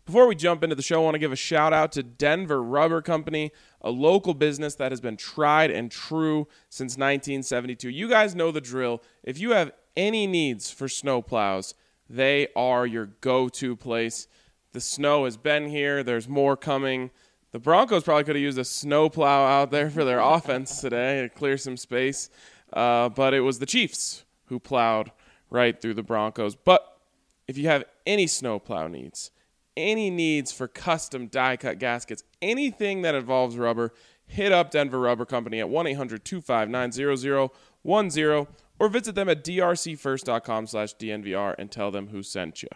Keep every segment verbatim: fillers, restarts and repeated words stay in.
Before we jump into the show, I want to give a shout out to Denver Rubber Company, a local business that has been tried and true since nineteen seventy-two. You guys know the drill. If you have any needs for snow plows, they are your go-to place. The snow has been here. There's more coming. The Broncos probably could have used a snow plow out there for their offense today to clear some space. Uh, but it was the Chiefs who plowed right through the Broncos. But if you have any snow plow needs, any needs for custom die-cut gaskets, anything that involves rubber, hit up Denver Rubber Company at one eight hundred two five nine zero zero one zero or visit them at drcfirst.com slash DNVR and tell them who sent you.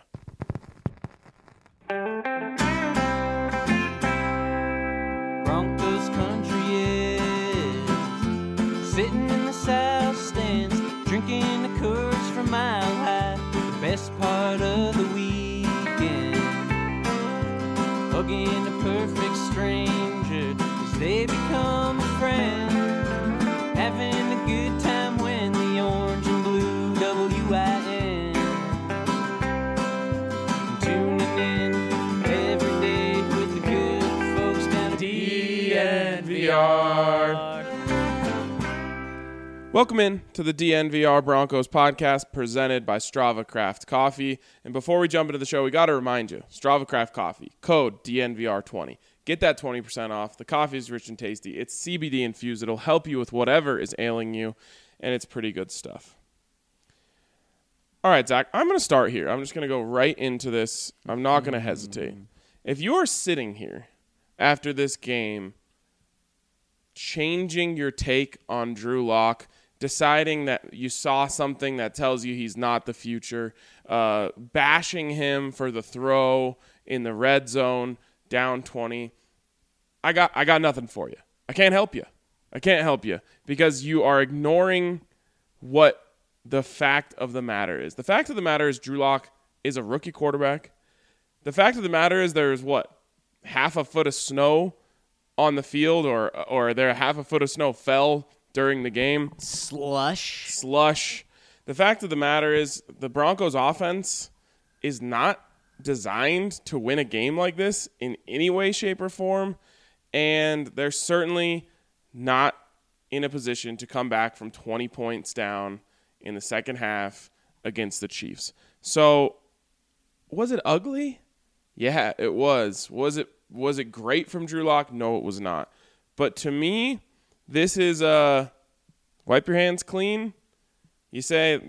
Broncos country is sitting in the south stands, drinking the Coors from Mile High, the best part of the weekend, hugging a perfect stranger as they become a friend, having a good time when the orange and blue W I N, tuning in every day with the good folks down at D N V R. Welcome in to the D N V R Broncos podcast presented by Strava Craft Coffee. And before we jump into the show, we got to remind you, Strava Craft Coffee, code D N V R twenty. Get that twenty percent off. The coffee is rich and tasty. It's C B D infused. It'll help you with whatever is ailing you, and it's pretty good stuff. All right, Zach, I'm going to start here. I'm just going to go right into this. I'm not going to hesitate. If you're sitting here after this game changing your take on Drew Lock, deciding that you saw something that tells you he's not the future, uh, bashing him for the throw in the red zone, down twenty, I got I got nothing for you. I can't help you. I can't help you because you are ignoring what the fact of the matter is. The fact of the matter is Drew Lock is a rookie quarterback. The fact of the matter is there's, what, half a foot of snow on the field, or or there half a foot of snow fell during the game. Slush. Slush. The fact of the matter is the Broncos offense is not designed to win a game like this in any way, shape, or form, and they're certainly not in a position to come back from twenty points down in the second half against the Chiefs. So, was it ugly? Yeah, it was. Was it was it great from Drew Lock? No, it was not. But to me, this is uh, wipe your hands clean. You say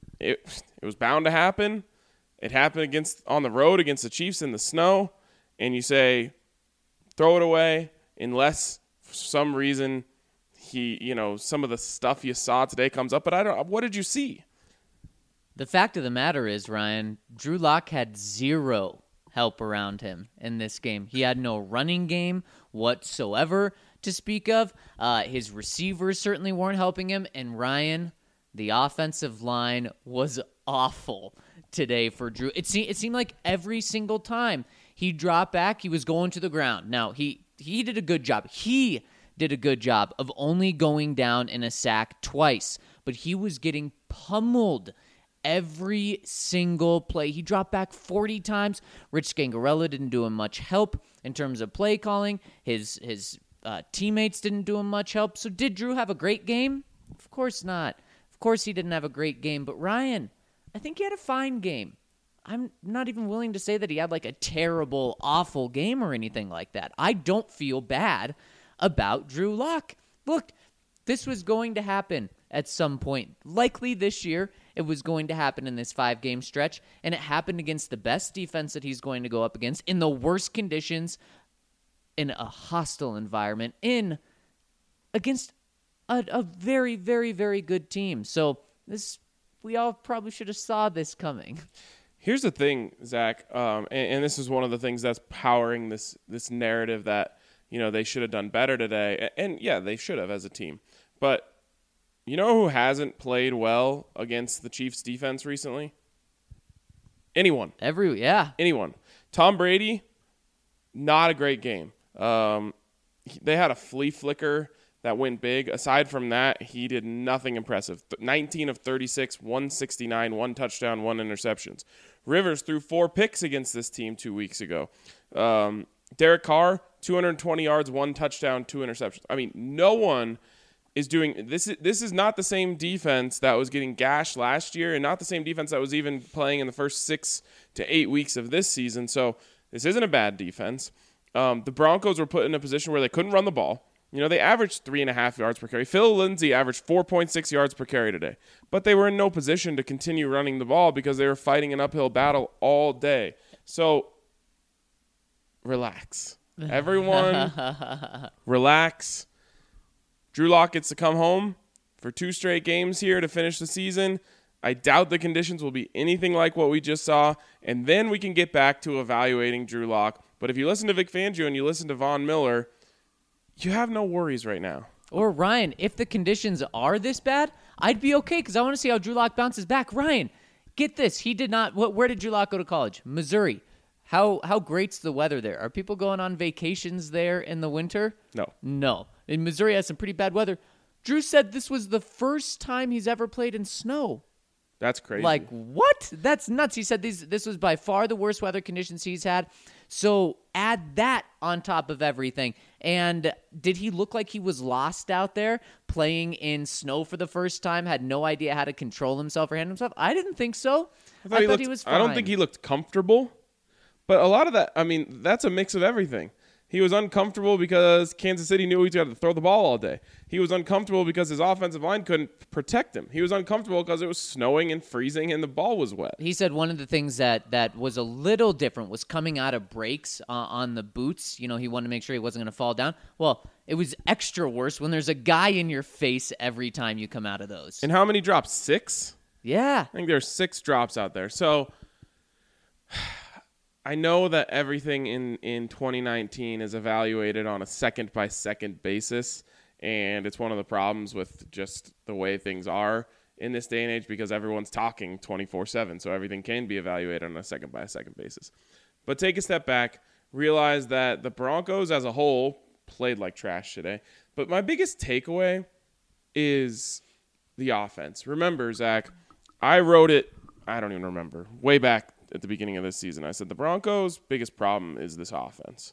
it it was bound to happen. It happened against on the road against the Chiefs in the snow, and you say throw it away unless for some reason he, you know, some of the stuff you saw today comes up. But I don't. What did you see? The fact of the matter is, Ryan, Drew Lock had zero help around him in this game. He had no running game whatsoever to speak of. Uh, his receivers certainly weren't helping him. And Ryan, the offensive line was awful today for Drew. It, se- it seemed like every single time he dropped back, he was going to the ground. Now, he, he did a good job. He did a good job of only going down in a sack twice. But he was getting pummeled every single play. He dropped back forty times. Rich Scangarella didn't do him much help in terms of play calling. His his uh, teammates didn't do him much help. So did Drew have a great game? Of course not. Of course he didn't have a great game. But Ryan, I think he had a fine game. I'm not even willing to say that he had like a terrible, awful game or anything like that. I don't feel bad about Drew Lock. Look, this was going to happen at some point. Likely this year, it was going to happen in this five-game stretch, and it happened against the best defense that he's going to go up against in the worst conditions, in a hostile environment, in against a, a very, very, very good team. So this, we all probably should have saw this coming. Here's the thing, Zach, um, and, and this is one of the things that's powering this this narrative that, you know, they should have done better today. And, and yeah, they should have as a team. But you know who hasn't played well against the Chiefs' defense recently? Anyone. Every yeah. Anyone. Tom Brady, not a great game. Um, they had a flea flicker that went big. Aside from that, he did nothing impressive. nineteen of thirty-six, one sixty-nine, one touchdown, one interceptions. Rivers threw four picks against this team two weeks ago. Um, Derek Carr, two hundred twenty yards, one touchdown, two interceptions. I mean, no one is doing this. Is, this is not the same defense that was getting gashed last year, and not the same defense that was even playing in the first six to eight weeks of this season. So this isn't a bad defense. Um, the Broncos were put in a position where they couldn't run the ball. You know, they averaged three and a half yards per carry. Phil Lindsay averaged four point six yards per carry today. But they were in no position to continue running the ball because they were fighting an uphill battle all day. So, relax. Everyone, relax. Drew Lock gets to come home for two straight games here to finish the season. I doubt the conditions will be anything like what we just saw. And then we can get back to evaluating Drew Lock. But if you listen to Vic Fangio and you listen to Von Miller, you have no worries right now. Or Ryan, if the conditions are this bad, I'd be okay because I want to see how Drew Lock bounces back. Ryan, get this. He did not. What, where did Drew Lock go to college? Missouri. How how great's the weather there? Are people going on vacations there in the winter? No. No. In Missouri has some pretty bad weather. Drew said this was the first time he's ever played in snow. That's crazy. Like, what? That's nuts. He said these, this was by far the worst weather conditions he's had. So add that on top of everything. And did he look like he was lost out there playing in snow for the first time, had no idea how to control himself or handle himself? I didn't think so. I thought, I he, thought looked, he was fine. I don't think he looked comfortable. But a lot of that, I mean, that's a mix of everything. He was uncomfortable because Kansas City knew he had to throw the ball all day. He was uncomfortable because his offensive line couldn't protect him. He was uncomfortable because it was snowing and freezing and the ball was wet. He said one of the things that, that was a little different was coming out of breaks uh, on the boots. You know, he wanted to make sure he wasn't going to fall down. Well, it was extra worse when there's a guy in your face every time you come out of those. And how many drops? Six? Yeah. I think there's six drops out there. So I know that everything in, in twenty nineteen is evaluated on a second-by-second basis, and it's one of the problems with just the way things are in this day and age because everyone's talking twenty-four seven, so everything can be evaluated on a second-by-second basis. But take a step back, realize that the Broncos as a whole played like trash today. But my biggest takeaway is the offense. Remember, Zach, I wrote it, I don't even remember, way back at the beginning of this season. I said the Broncos' biggest problem is this offense.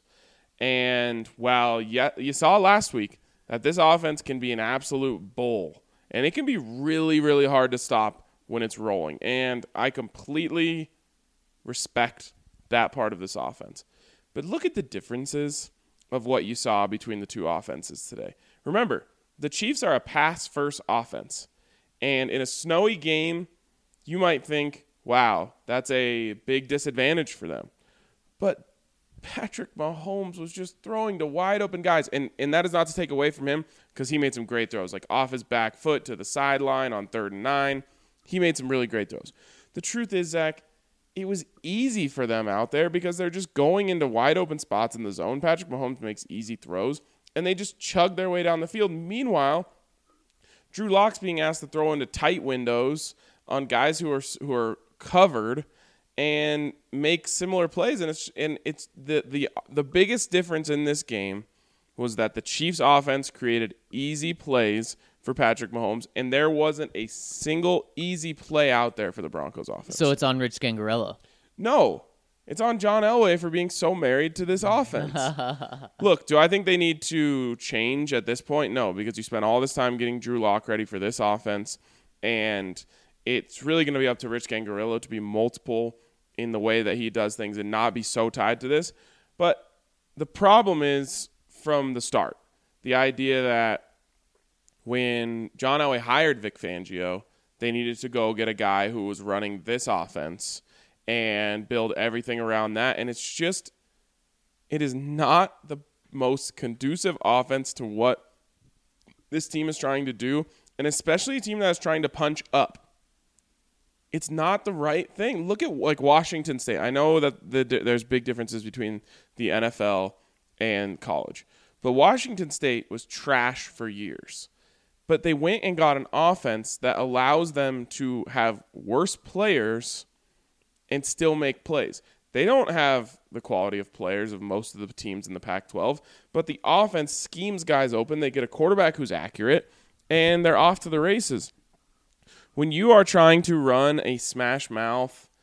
And while yeah, you saw last week that this offense can be an absolute bull, and it can be really, really hard to stop when it's rolling. And I completely respect that part of this offense. But look at the differences of what you saw between the two offenses today. Remember, the Chiefs are a pass-first offense. And in a snowy game, you might think, wow, that's a big disadvantage for them. But Patrick Mahomes was just throwing to wide open guys. And and that is not to take away from him because he made some great throws, like off his back foot to the sideline on third and nine. He made some really great throws. The truth is, Zach, it was easy for them out there because they're just going into wide open spots in the zone. Patrick Mahomes makes easy throws, and they just chug their way down the field. Meanwhile, Drew Lock's being asked to throw into tight windows on guys who are who are covered and make similar plays, and it's and it's the the the biggest difference in this game was that the Chiefs offense created easy plays for Patrick Mahomes, and there wasn't a single easy play out there for the Broncos offense. So it's on Rich Scangarello. No, it's on John Elway for being so married to this offense. Look, do I think they need to change at this point? No, because you spent all this time getting Drew Lock ready for this offense, and it's really going to be up to Rich Scangarello to be multiple in the way that he does things and not be so tied to this. But the problem is from the start, the idea that when John Elway hired Vic Fangio, they needed to go get a guy who was running this offense and build everything around that. And it's just, it is not the most conducive offense to what this team is trying to do, and especially a team that is trying to punch up. It's not the right thing. Look at like Washington State. I know that the, there's big differences between the N F L and college, but Washington State was trash for years. But they went and got an offense that allows them to have worse players and still make plays. They don't have the quality of players of most of the teams in the Pac twelve, but the offense schemes guys open. They get a quarterback who's accurate, and they're off to the races. When you are trying to run a smash mouth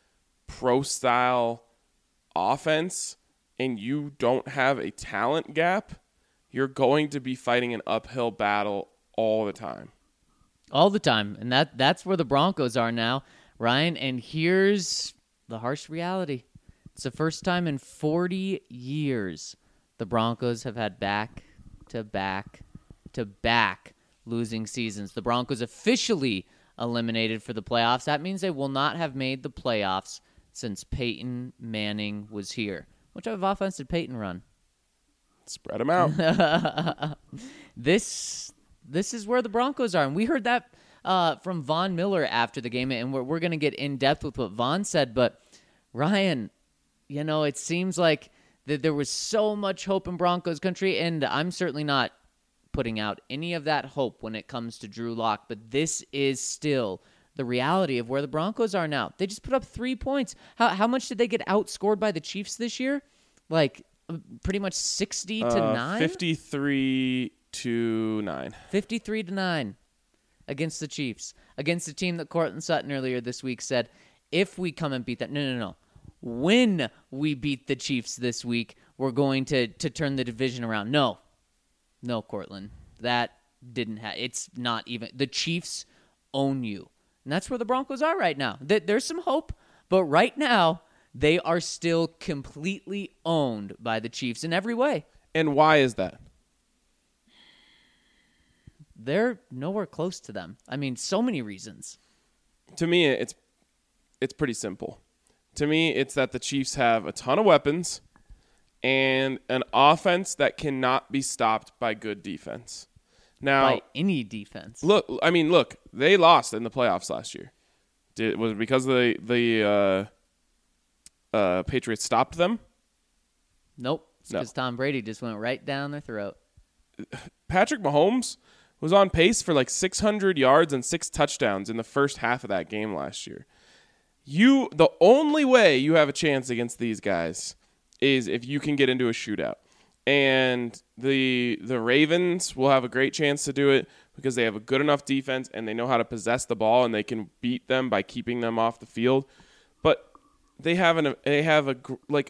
pro-style offense and you don't have a talent gap, you're going to be fighting an uphill battle all the time. All the time. And that that's where the Broncos are now, Ryan. And here's the harsh reality. It's the first time in forty years the Broncos have had back-to-back-to-back losing seasons. The Broncos officially eliminated for the playoffs. That means they will not have made the playoffs since Peyton Manning was here. What type of offense did Peyton run? Spread them out. This this is where the Broncos are. And we heard that uh, from Von Miller after the game, and we're, we're going to get in-depth with what Von said. But, Ryan, you know, it seems like that there was so much hope in Broncos country, and I'm certainly not putting out any of that hope when it comes to Drew Lock, but this is still the reality of where the Broncos are now. They just put up three points. How how much did they get outscored by the Chiefs this year? Like pretty much sixty to nine? Uh, fifty-three to nine. fifty-three to nine against the Chiefs. Against a team that Cortland Sutton earlier this week said, if we come and beat that, no, no, no. When we beat the Chiefs this week, we're going to, to turn the division around. No. No, Cortland. That didn't happen. It's not even. The Chiefs own you. And that's where the Broncos are right now. There's some hope, but right now, they are still completely owned by the Chiefs in every way. And why is that? They're nowhere close to them. I mean, so many reasons. To me, it's it's pretty simple. To me, it's that the Chiefs have a ton of weapons and an offense that cannot be stopped by good defense. Now, by any defense. Look, I mean, look, they lost in the playoffs last year. Did was it because the the uh, uh, Patriots stopped them? Nope. It's No. because Tom Brady just went right down their throat. Patrick Mahomes was on pace for like six hundred yards and six touchdowns in the first half of that game last year. You, the only way you have a chance against these guys is if you can get into a shootout. And the the Ravens will have a great chance to do it because they have a good enough defense and they know how to possess the ball and they can beat them by keeping them off the field. But they have an they have a like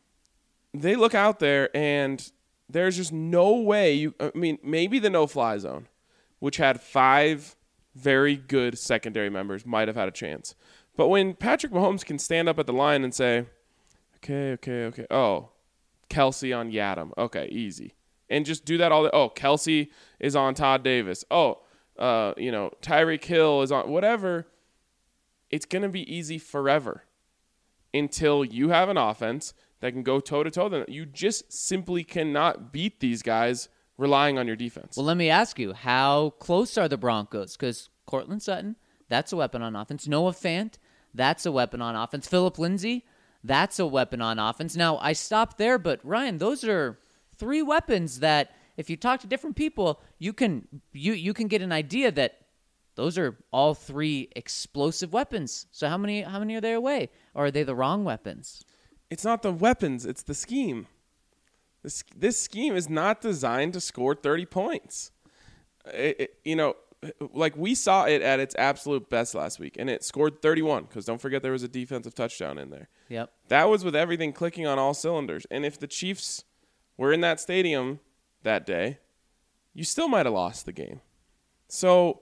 they look out there and there's just no way you I mean maybe the no-fly zone, which had five very good secondary members, might have had a chance. But when Patrick Mahomes can stand up at the line and say, okay, okay, okay, oh, Kelsey on Yadam. Okay, easy. And just do that all the oh, Kelsey is on Todd Davis. Oh, uh, you know, Tyreek Hill is on whatever. It's going to be easy forever until you have an offense that can go toe-to-toe. You just simply cannot beat these guys relying on your defense. Well, let me ask you, how close are the Broncos? Because Cortland Sutton, that's a weapon on offense. Noah Fant, that's a weapon on offense. Phillip Lindsay, that's a weapon on offense. Now, I stopped there, but Ryan, those are three weapons that if you talk to different people, you can you you can get an idea that those are all three explosive weapons. So how many how many are they away? Or are they the wrong weapons? It's not the weapons, it's the scheme. This this scheme is not designed to score thirty points. It, it, you know, like we saw it at its absolute best last week, and it scored thirty-one because don't forget there was a defensive touchdown in there. Yep. That was with everything clicking on all cylinders. And if the Chiefs were in that stadium that day, you still might have lost the game. So,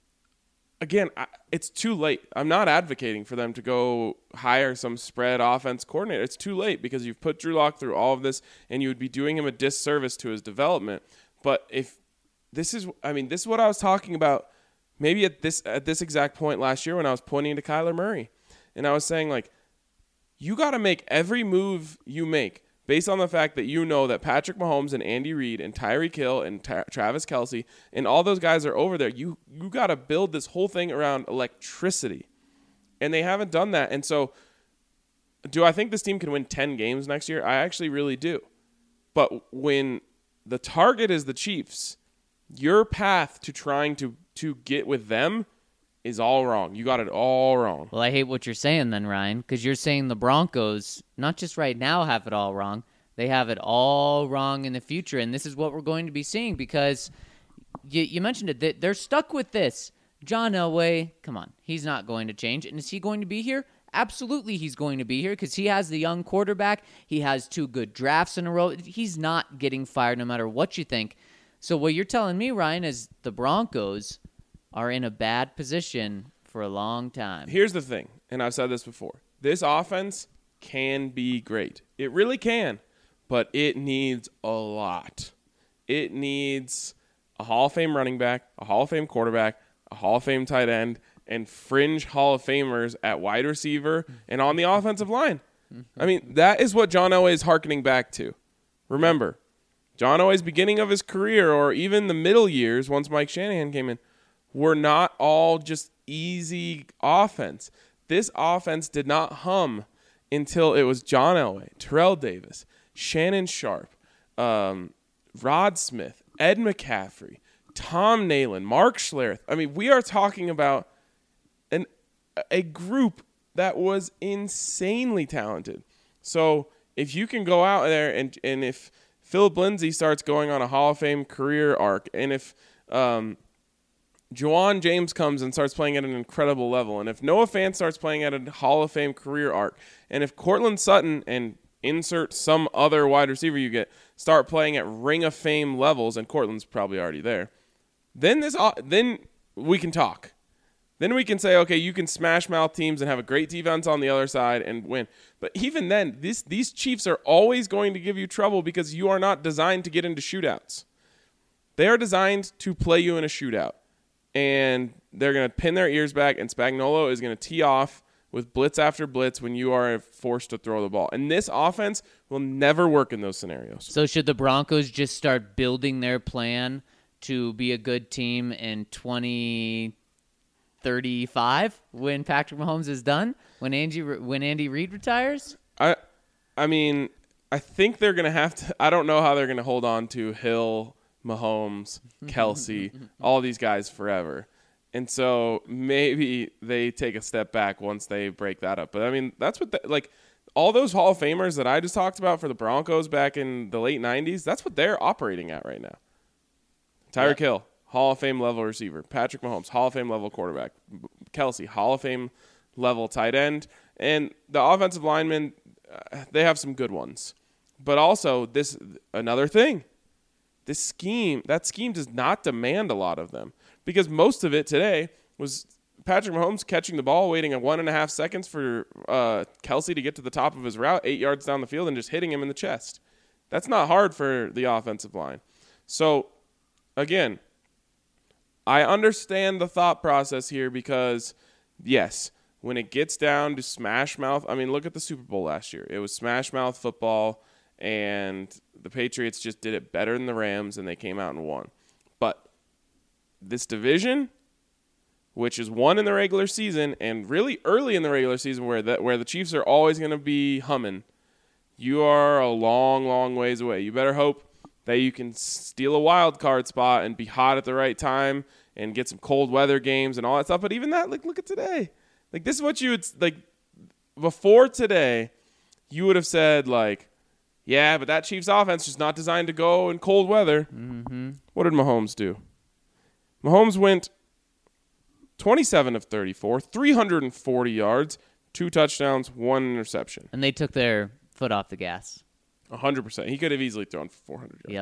again, I, it's too late. I'm not advocating for them to go hire some spread offense coordinator. It's too late because you've put Drew Lock through all of this, and you would be doing him a disservice to his development. But if this is, I mean, this is what I was talking about maybe at this at this exact point last year when I was pointing to Kyler Murray. And I was saying, like, you got to make every move you make based on the fact that you know that Patrick Mahomes and Andy Reid and Tyreek Hill and Tra- Travis Kelce and all those guys are over there. You you got to build this whole thing around electricity. And they haven't done that. And so do I think this team can win ten games next year? I actually really do. But when the target is the Chiefs, your path to trying to, to get with them is all wrong. You got it all wrong. Well, I hate what you're saying then, Ryan, because you're saying the Broncos, not just right now, have it all wrong. They have it all wrong in the future, and this is what we're going to be seeing because you, you mentioned it. They're stuck with this. John Elway, come on, he's not going to change. And is he going to be here? Absolutely he's going to be here because he has the young quarterback. He has two good drafts in a row. He's not getting fired no matter what you think. So what you're telling me, Ryan, is the Broncos are in a bad position for a long time. Here's the thing, and I've said this before. This offense can be great. It really can, but it needs a lot. It needs a Hall of Fame running back, a Hall of Fame quarterback, a Hall of Fame tight end, and fringe Hall of Famers at wide receiver and on the offensive line. I mean, that is what John Elway is hearkening back to. Remember, John Elway's beginning of his career, or even the middle years once Mike Shanahan came in, were not all just easy offense. This offense did not hum until it was John Elway, Terrell Davis, Shannon Sharp, um, Rod Smith, Ed McCaffrey, Tom Nalen, Mark Schlereth. I mean, we are talking about an a group that was insanely talented. So if you can go out there and and if Philip Lindsay starts going on a Hall of Fame career arc, and if um, Juwan James comes and starts playing at an incredible level, and if Noah Fant starts playing at a Hall of Fame career arc, and if Cortland Sutton and insert some other wide receiver you get start playing at Ring of Fame levels, and Cortland's probably already there, then this then we can talk. Then we can say, okay, you can smash mouth teams and have a great defense on the other side and win. But even then, this, these Chiefs are always going to give you trouble because you are not designed to get into shootouts. They are designed to play you in a shootout. And they're going to pin their ears back, and Spagnuolo is going to tee off with blitz after blitz when you are forced to throw the ball. And this offense will never work in those scenarios. So should the Broncos just start building their plan to be a good team in twenty thirty-five when Patrick Mahomes is done, when Andy when Andy Reid retires? I I mean, I think they're going to have to – I don't know how they're going to hold on to Hill, Mahomes, Kelsey, all these guys forever. And so maybe they take a step back once they break that up. But, I mean, that's what – like all those Hall of Famers that I just talked about for the Broncos back in the late nineties, that's what they're operating at right now. Tyreek yep. Hill, Hall of Fame level receiver. Patrick Mahomes, Hall of Fame level quarterback. Kelsey, Hall of Fame level tight end. And the offensive linemen, uh, they have some good ones. But also, this another thing, this scheme, that scheme does not demand a lot of them. Because most of it today was Patrick Mahomes catching the ball, waiting a one and a half seconds for uh, Kelsey to get to the top of his route, eight yards down the field, and just hitting him in the chest. That's not hard for the offensive line. So, again, I understand the thought process here because, yes, when it gets down to smash mouth, I mean, look at the Super Bowl last year. It was smash mouth football, and the Patriots just did it better than the Rams, and they came out and won. But this division, which is won in the regular season, and really early in the regular season where the, where the Chiefs are always going to be humming, you are a long, long ways away. You better hope that you can steal a wild card spot and be hot at the right time and get some cold weather games and all that stuff. But even that, like, look at today. Like, this is what you would, like, before today, you would have said, like, yeah, but that Chiefs offense is not designed to go in cold weather. Mm-hmm. What did Mahomes do? Mahomes went twenty-seven of thirty-four, three hundred forty yards, two touchdowns, one interception. And they took their foot off the gas. one hundred percent. He could have easily thrown for four hundred yards. Yep.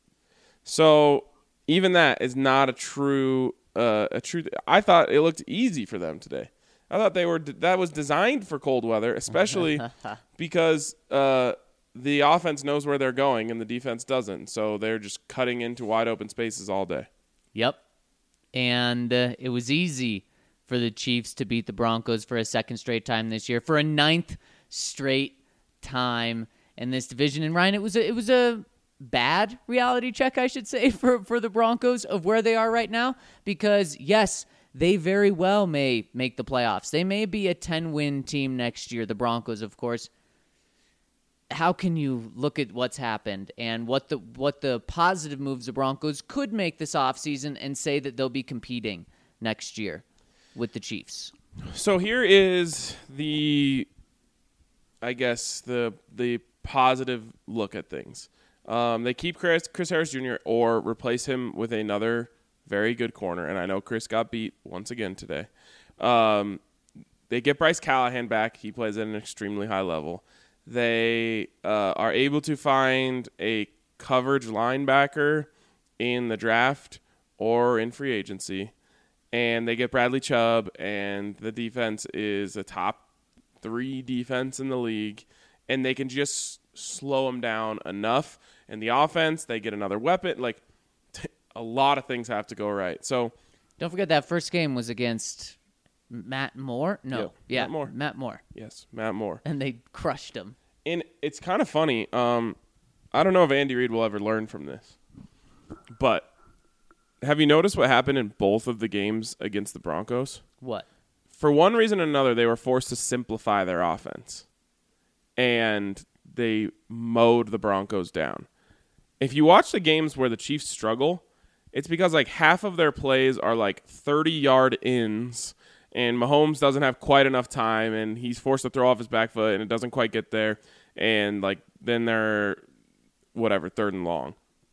So even that is not a true uh, a true. I thought it looked easy for them today. I thought they were that was designed for cold weather, especially because uh, the offense knows where they're going and the defense doesn't. So they're just cutting into wide open spaces all day. Yep. And uh, it was easy for the Chiefs to beat the Broncos for a second straight time this year, for a ninth straight time in this division. And Ryan, it was a, it was a bad reality check, I should say, for, for the Broncos of where they are right now. Because, yes, they very well may make the playoffs. They may be a ten-win team next year, the Broncos, of course. How can you look at what's happened and what the what the positive moves the Broncos could make this offseason and say that they'll be competing next year with the Chiefs? So here is the, I guess, the the positive look at things. Um, they keep Chris, Chris Harris Junior or replace him with another very good corner. And I know Chris got beat once again today. Um, they get Bryce Callahan back. He plays at an extremely high level. They uh, are able to find a coverage linebacker in the draft or in free agency, and they get Bradley Chubb, and the defense is a top three defense in the league, and they can just slow them down enough. And the offense, they get another weapon. Like, t- a lot of things have to go right. So don't forget that first game was against Matt Moore. No, yeah, yeah, Matt Moore. Matt Moore, yes, Matt Moore, and they crushed him. And it's kind of funny. Um, I don't know if Andy Reid will ever learn from this, but have you noticed what happened in both of the games against the Broncos? What? For one reason or another, they were forced to simplify their offense, and they mowed the Broncos down. If you watch the games where the Chiefs struggle, it's because like half of their plays are like thirty-yard ins, and Mahomes doesn't have quite enough time, and he's forced to throw off his back foot, and it doesn't quite get there, and like then they're whatever, third and long.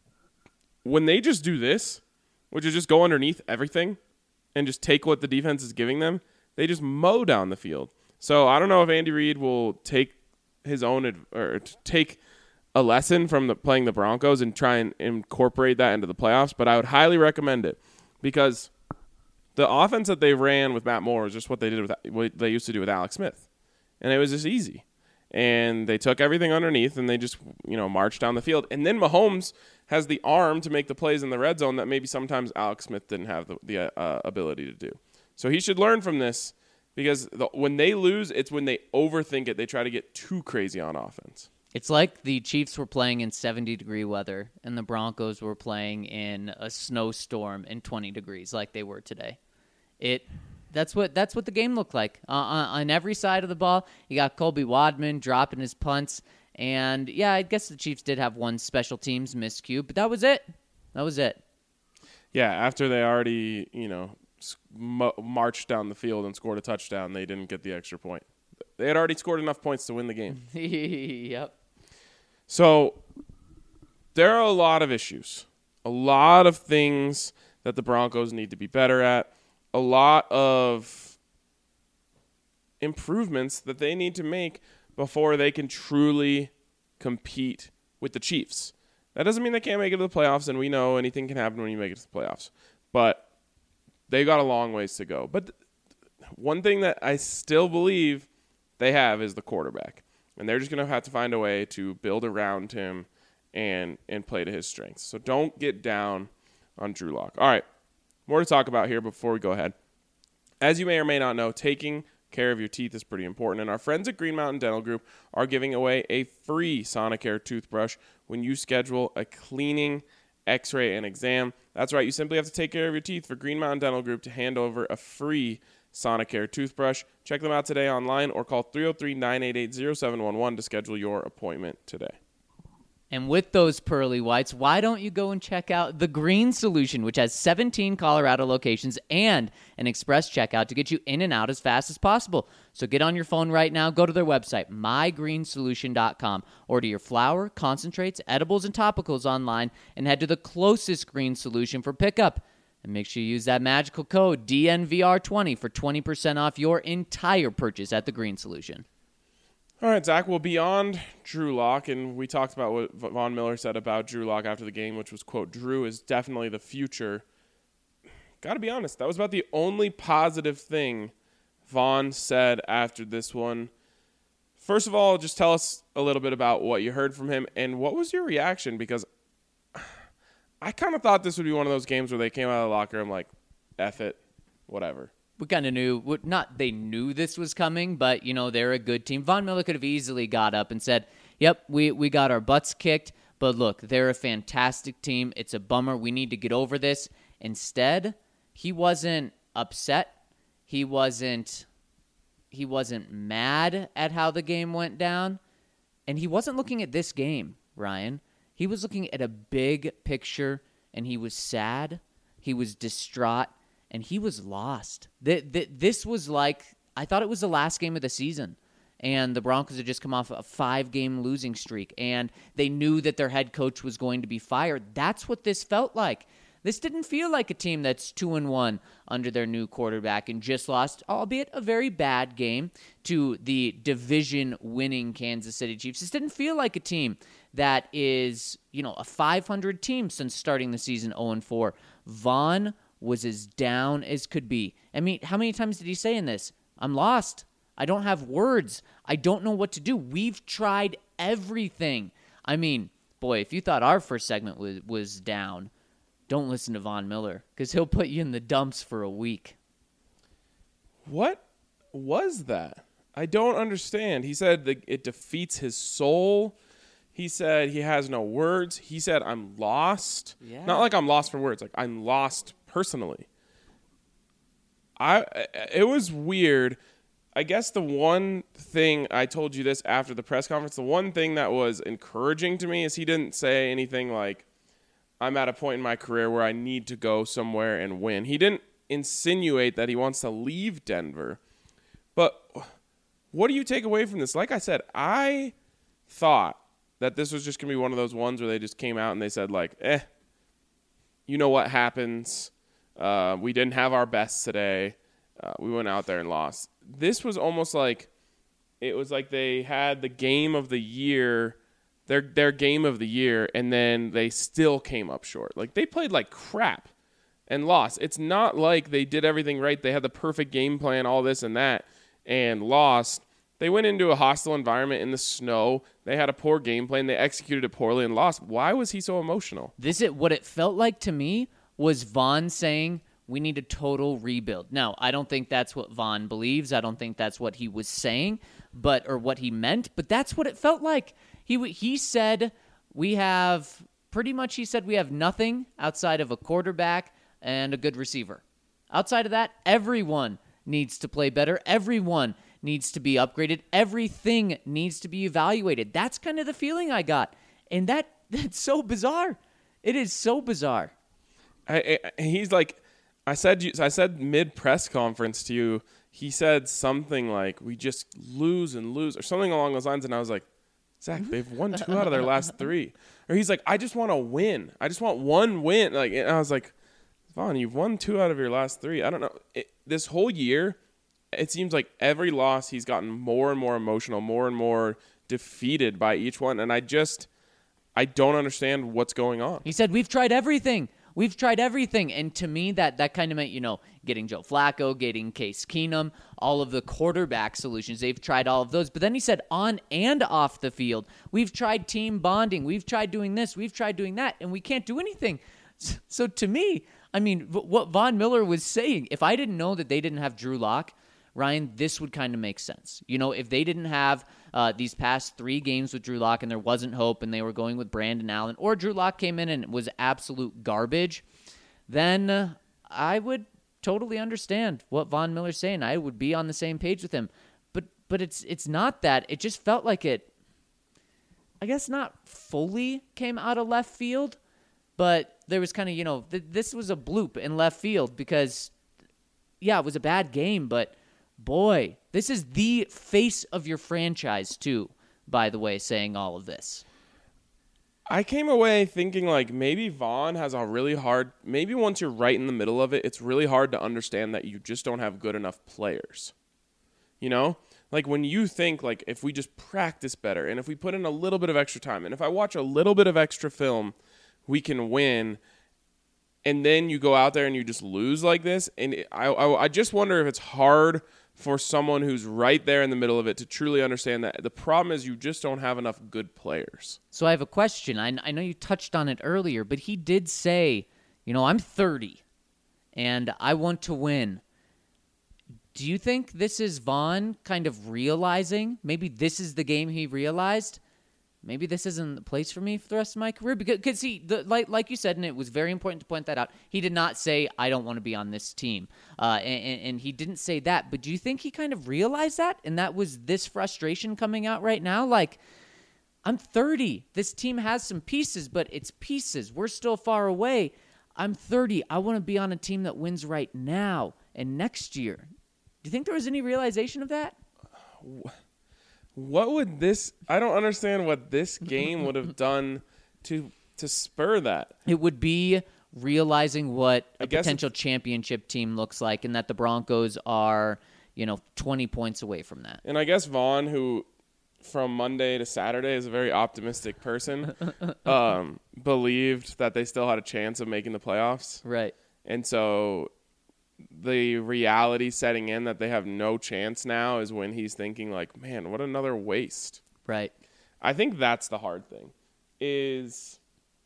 When they just do this, which is just go underneath everything and just take what the defense is giving them, they just mow down the field. So I don't know if Andy Reid will take his own ad- or take a lesson from the, playing the Broncos and try and incorporate that into the playoffs, but I would highly recommend it because the offense that they ran with Matt Moore is just what they did with what they used to do with Alex Smith, and it was just easy. And they took everything underneath and they just you know marched down the field. And then Mahomes has the arm to make the plays in the red zone that maybe sometimes Alex Smith didn't have the, the uh, ability to do. So he should learn from this because the, when they lose, it's when they overthink it. They try to get too crazy on offense. It's like the Chiefs were playing in seventy-degree weather, and the Broncos were playing in a snowstorm in twenty degrees like they were today. It that's what that's what the game looked like. Uh, on, on every side of the ball, you got Colby Wadman dropping his punts, and, yeah, I guess the Chiefs did have one special teams miscue, but that was it. That was it. Yeah, after they already, you know, marched down the field and scored a touchdown, they didn't get the extra point. They had already scored enough points to win the game. Yep. So there are a lot of issues, a lot of things that the Broncos need to be better at, a lot of improvements that they need to make before they can truly compete with the Chiefs. That doesn't mean they can't make it to the playoffs, and we know anything can happen when you make it to the playoffs. But they got a long ways to go. But th- one thing that I still believe they have is the quarterback. And they're just going to have to find a way to build around him and and play to his strengths. So don't get down on Drew Lock. All right, more to talk about here before we go ahead. As you may or may not know, taking care of your teeth is pretty important. And our friends at Green Mountain Dental Group are giving away a free Sonicare toothbrush when you schedule a cleaning, x-ray, and exam. That's right. You simply have to take care of your teeth for Green Mountain Dental Group to hand over a free Sonicare toothbrush. Check them out today online or call three oh three, nine eight eight, oh seven one one to schedule your appointment today. And with those pearly whites, why don't you go and check out The Green Solution, which has seventeen Colorado locations and an express checkout to get you in and out as fast as possible. So get on your phone right now, go to their website, my green solution dot com. Order your flour, concentrates, edibles, and topicals online, and head to the closest Green Solution for pickup. And make sure you use that magical code D N V R twenty for twenty percent off your entire purchase at The Green Solution. All right, Zach, well, beyond Drew Lock, and we talked about what Von Miller said about Drew Lock after the game, which was, quote, Drew is definitely the future. Got to be honest, that was about the only positive thing Von said after this one. First of all, just tell us a little bit about what you heard from him, and what was your reaction? Because I kind of thought this would be one of those games where they came out of the locker room like, F it, whatever. We kind of knew, not they knew this was coming, but, you know, they're a good team. Von Miller could have easily got up and said, yep, we, we got our butts kicked, but look, they're a fantastic team. It's a bummer. We need to get over this. Instead, he wasn't upset. He wasn't, he wasn't mad at how the game went down. And he wasn't looking at this game, Ryan. He was looking at a big picture, and he was sad. He was distraught. And he was lost. This was like, I thought it was the last game of the season. And the Broncos had just come off a five-game losing streak. And they knew that their head coach was going to be fired. That's what this felt like. This didn't feel like a team that's two and one under their new quarterback and just lost, albeit a very bad game, to the division-winning Kansas City Chiefs. This didn't feel like a team that is, you know, a five hundred team since starting the season oh and four. Vaughn was as down as could be. I mean, how many times did he say in this? I'm lost. I don't have words. I don't know what to do. We've tried everything. I mean, boy, if you thought our first segment was, was down, don't listen to Von Miller, because he'll put you in the dumps for a week. What was that? I don't understand. He said that it defeats his soul. He said he has no words. He said, I'm lost. Yeah. Not like I'm lost for words. Like, I'm lost personally. I. It was weird. I guess the one thing, I told you this after the press conference, the one thing that was encouraging to me is he didn't say anything like, I'm at a point in my career where I need to go somewhere and win. He didn't insinuate that he wants to leave Denver. But what do you take away from this? Like I said, I thought that this was just going to be one of those ones where they just came out and they said, like, eh, you know what happens. Uh, we didn't have our best today. Uh, we went out there and lost. This was almost like it was like they had the game of the year, their their game of the year, and then they still came up short. Like, they played like crap and lost. It's not like they did everything right. They had the perfect game plan, all this and that, and lost. They went into a hostile environment in the snow. They had a poor game plan. They executed it poorly and lost. Why was he so emotional? This is what it felt like to me was Vaughn saying, we need a total rebuild. Now, I don't think that's what Vaughn believes. I don't think that's what he was saying, but or what he meant, but that's what it felt like. He he said we have, pretty much he said we have nothing outside of a quarterback and a good receiver. Outside of that, everyone needs to play better. Everyone needs to be upgraded. Everything needs to be evaluated. That's kind of the feeling I got. And that that's so bizarre. It is so bizarre. I, I, he's like, I said, I said mid press conference to you, he said something like, we just lose and lose, or something along those lines. And I was like, Zach, they've won two out of their last three. Or he's like, I just want to win. I just want one win. Like, and I was like, Vaughn, you've won two out of your last three. I don't know. It, this whole year, it seems like every loss he's gotten more and more emotional, more and more defeated by each one. And I just, I don't understand what's going on. He said, we've tried everything. We've tried everything. And to me, that, that kind of meant, you know, getting Joe Flacco, getting Case Keenum, all of the quarterback solutions. They've tried all of those. But then he said on and off the field, we've tried team bonding. We've tried doing this. We've tried doing that. And we can't do anything. So to me, I mean, what Von Miller was saying, if I didn't know that they didn't have Drew Lock, Ryan, this would kind of make sense. You know, if they didn't have uh, these past three games with Drew Lock and there wasn't hope and they were going with Brandon Allen, or Drew Lock came in and was absolute garbage, then uh, I would totally understand what Von Miller's saying. I would be on the same page with him. But but it's it's not that. It just felt like it, I guess not fully came out of left field, but there was kind of, you know, th- this was a bloop in left field because, yeah, it was a bad game, but boy, this is the face of your franchise, too, by the way, saying all of this. I came away thinking, like, maybe Vaughn has a really hard, maybe once you're right in the middle of it, it's really hard to understand that you just don't have good enough players. You know? Like, when you think, like, if we just practice better, and if we put in a little bit of extra time, and if I watch a little bit of extra film, we can win. And then you go out there and you just lose like this. And it, I, I, I just wonder if it's hard for someone who's right there in the middle of it to truly understand that the problem is you just don't have enough good players. So I have a question. I, I know you touched on it earlier, but he did say, you know, I'm thirty and I want to win. Do you think this is Vaughn kind of realizing, maybe this is the game he realized, maybe this isn't the place for me for the rest of my career? Because, because he, the, like, like you said, and it was very important to point that out, he did not say, I don't want to be on this team. Uh, and, and he didn't say that. But do you think he kind of realized that? And that was this frustration coming out right now? Like, I'm thirty. This team has some pieces, but it's pieces. We're still far away. I'm thirty. I want to be on a team that wins right now and next year. Do you think there was any realization of that? What would this – I don't understand what this game would have done to to spur that. It would be realizing what I a guess potential championship team looks like, and that the Broncos are, you know, twenty points away from that. And I guess Vaughn, who from Monday to Saturday is a very optimistic person, um, believed that they still had a chance of making the playoffs. Right. And so the reality setting in that they have no chance now is when he's thinking like, man, what another waste. Right. I think that's the hard thing is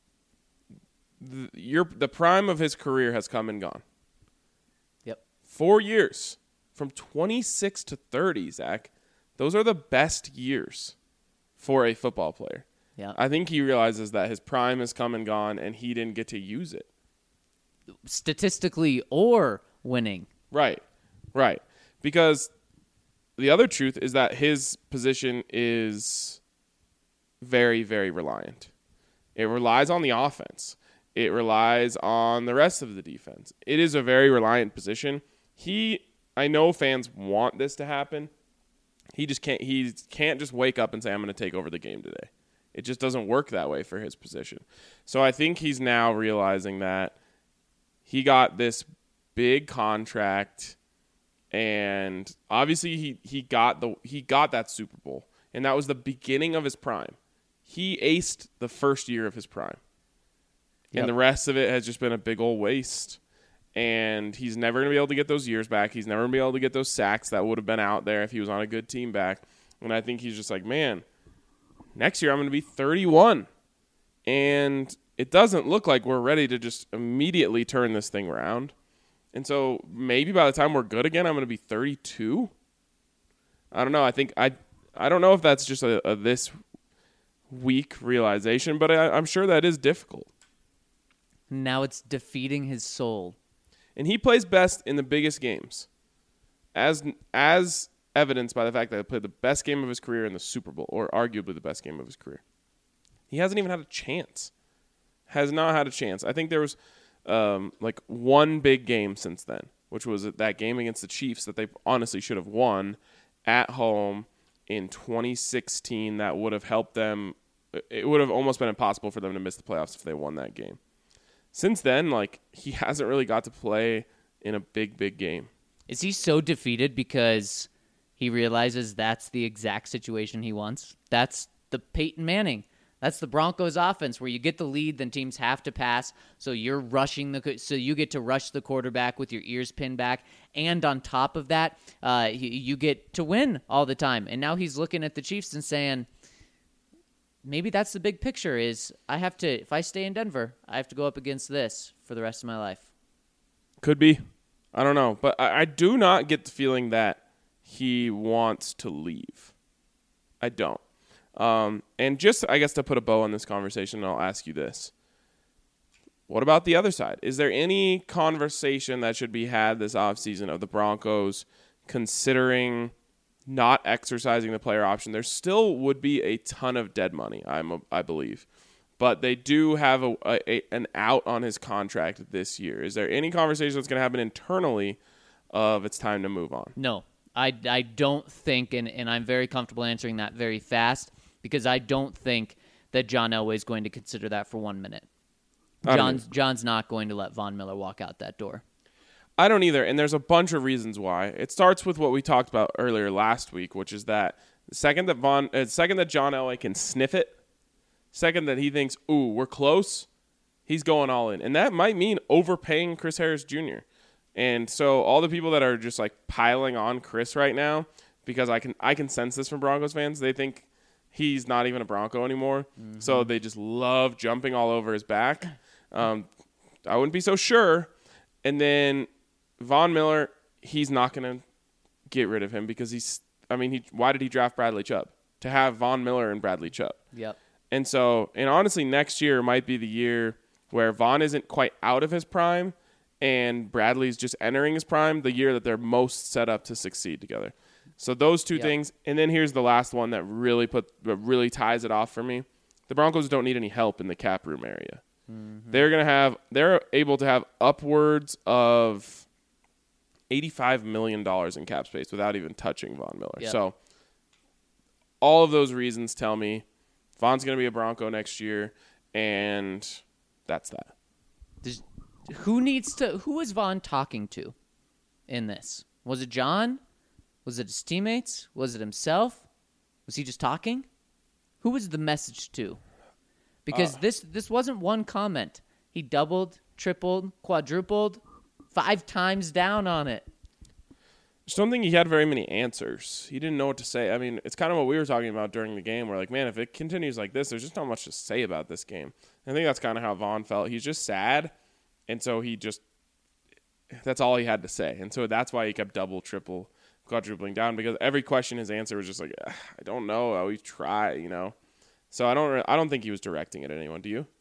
the, your, the prime of his career has come and gone. Yep. Four years from twenty-six to thirty, Zach. Those are the best years for a football player. Yeah. I think he realizes that his prime has come and gone and he didn't get to use it. Statistically or winning. Right, right. Because the other truth is that his position is very, very reliant. It relies on the offense. It relies on the rest of the defense. It is a very reliant position. He, I know fans want this to happen. He just can't. He can't just wake up and say, "I'm going to take over the game today." It just doesn't work that way for his position. So I think he's now realizing that he got this big contract, and obviously he, he got the he got that Super Bowl, and that was the beginning of his prime. He aced the first year of his prime, Yep. and the rest of it has just been a big old waste. And he's never going to be able to get those years back. He's never going to be able to get those sacks that would have been out there if he was on a good team back. And I think he's just like, man, next year I'm going to be thirty-one. And it doesn't look like we're ready to just immediately turn this thing around. And so maybe by the time we're good again, I'm going to be thirty-two. I don't know. I think I I don't know if that's just a, a this weak realization, but I, I'm sure that is difficult. Now it's defeating his soul. And he plays best in the biggest games, as as evidenced by the fact that he played the best game of his career in the Super Bowl, or arguably the best game of his career. He hasn't even had a chance. Has not had a chance. I think there was um, like one big game since then, which was that game against the Chiefs that they honestly should have won at home in twenty sixteen. That would have helped them. It would have almost been impossible for them to miss the playoffs if they won that game. Since then, like, he hasn't really got to play in a big, big game. Is he so defeated because he realizes that's the exact situation he wants? That's the Peyton Manning. That's the Broncos offense where you get the lead, then teams have to pass, so you're rushing the so you get to rush the quarterback with your ears pinned back, and on top of that, uh, you, you get to win all the time. And now he's looking at the Chiefs and saying, maybe that's the big picture is I have to, if I stay in Denver, I have to go up against this for the rest of my life. Could be. I don't know. But I, I do not get the feeling that he wants to leave. I don't. Um, and just, I guess, to put a bow on this conversation, I'll ask you this. What about the other side? Is there any conversation that should be had this offseason of the Broncos considering not exercising the player option? There still would be a ton of dead money, I'm a, I believe. But they do have a, a an out on his contract this year. Is there any conversation that's going to happen internally of it's time to move on? No, I, I don't think, and, and I'm very comfortable answering that very fast, because I don't think that John Elway is going to consider that for one minute. John's, John's not going to let Von Miller walk out that door. I don't either, and there's a bunch of reasons why. It starts with what we talked about earlier last week, which is that the second that Von, uh, second that John Elway can sniff it, second that he thinks, ooh, we're close, he's going all in. And that might mean overpaying Chris Harris Junior And so all the people that are just like piling on Chris right now, because I can I can sense this from Broncos fans, they think he's not even a Bronco anymore. Mm-hmm. So they just love jumping all over his back. Um, I wouldn't be so sure. And then Von Miller, he's not going to get rid of him because he's, I mean, he, why did he draft Bradley Chubb? To have Von Miller and Bradley Chubb. Yep. And so, and honestly, next year might be the year where Von isn't quite out of his prime and Bradley's just entering his prime, the year that they're most set up to succeed together. So those two yep. things. And then here's the last one that really put, that really ties it off for me. The Broncos don't need any help in the cap room area. Mm-hmm. They're going to have, they're able to have upwards of eighty-five million dollars in cap space without even touching Von Miller. Yep. So all of those reasons tell me Von's going to be a Bronco next year, and that's that. Does who needs to? Who is Vaughn talking to in this? Was it John? Was it his teammates? Was it himself? Was he just talking? Who was the message to? Because uh, this this wasn't one comment. He doubled, tripled, quadrupled, five times down on it. I just don't think he had very many answers. He didn't know what to say. I mean, it's kind of what we were talking about during the game. We're like, man, if it continues like this, there's just not much to say about this game. I think that's kind of how Vaughn felt. He's just sad, and so he just – that's all he had to say. And so that's why he kept double, triple, quadrupling down, because every question his answer was just like, I don't know. I always try, you know. So I don't I don't think he was directing it at anyone. Do you?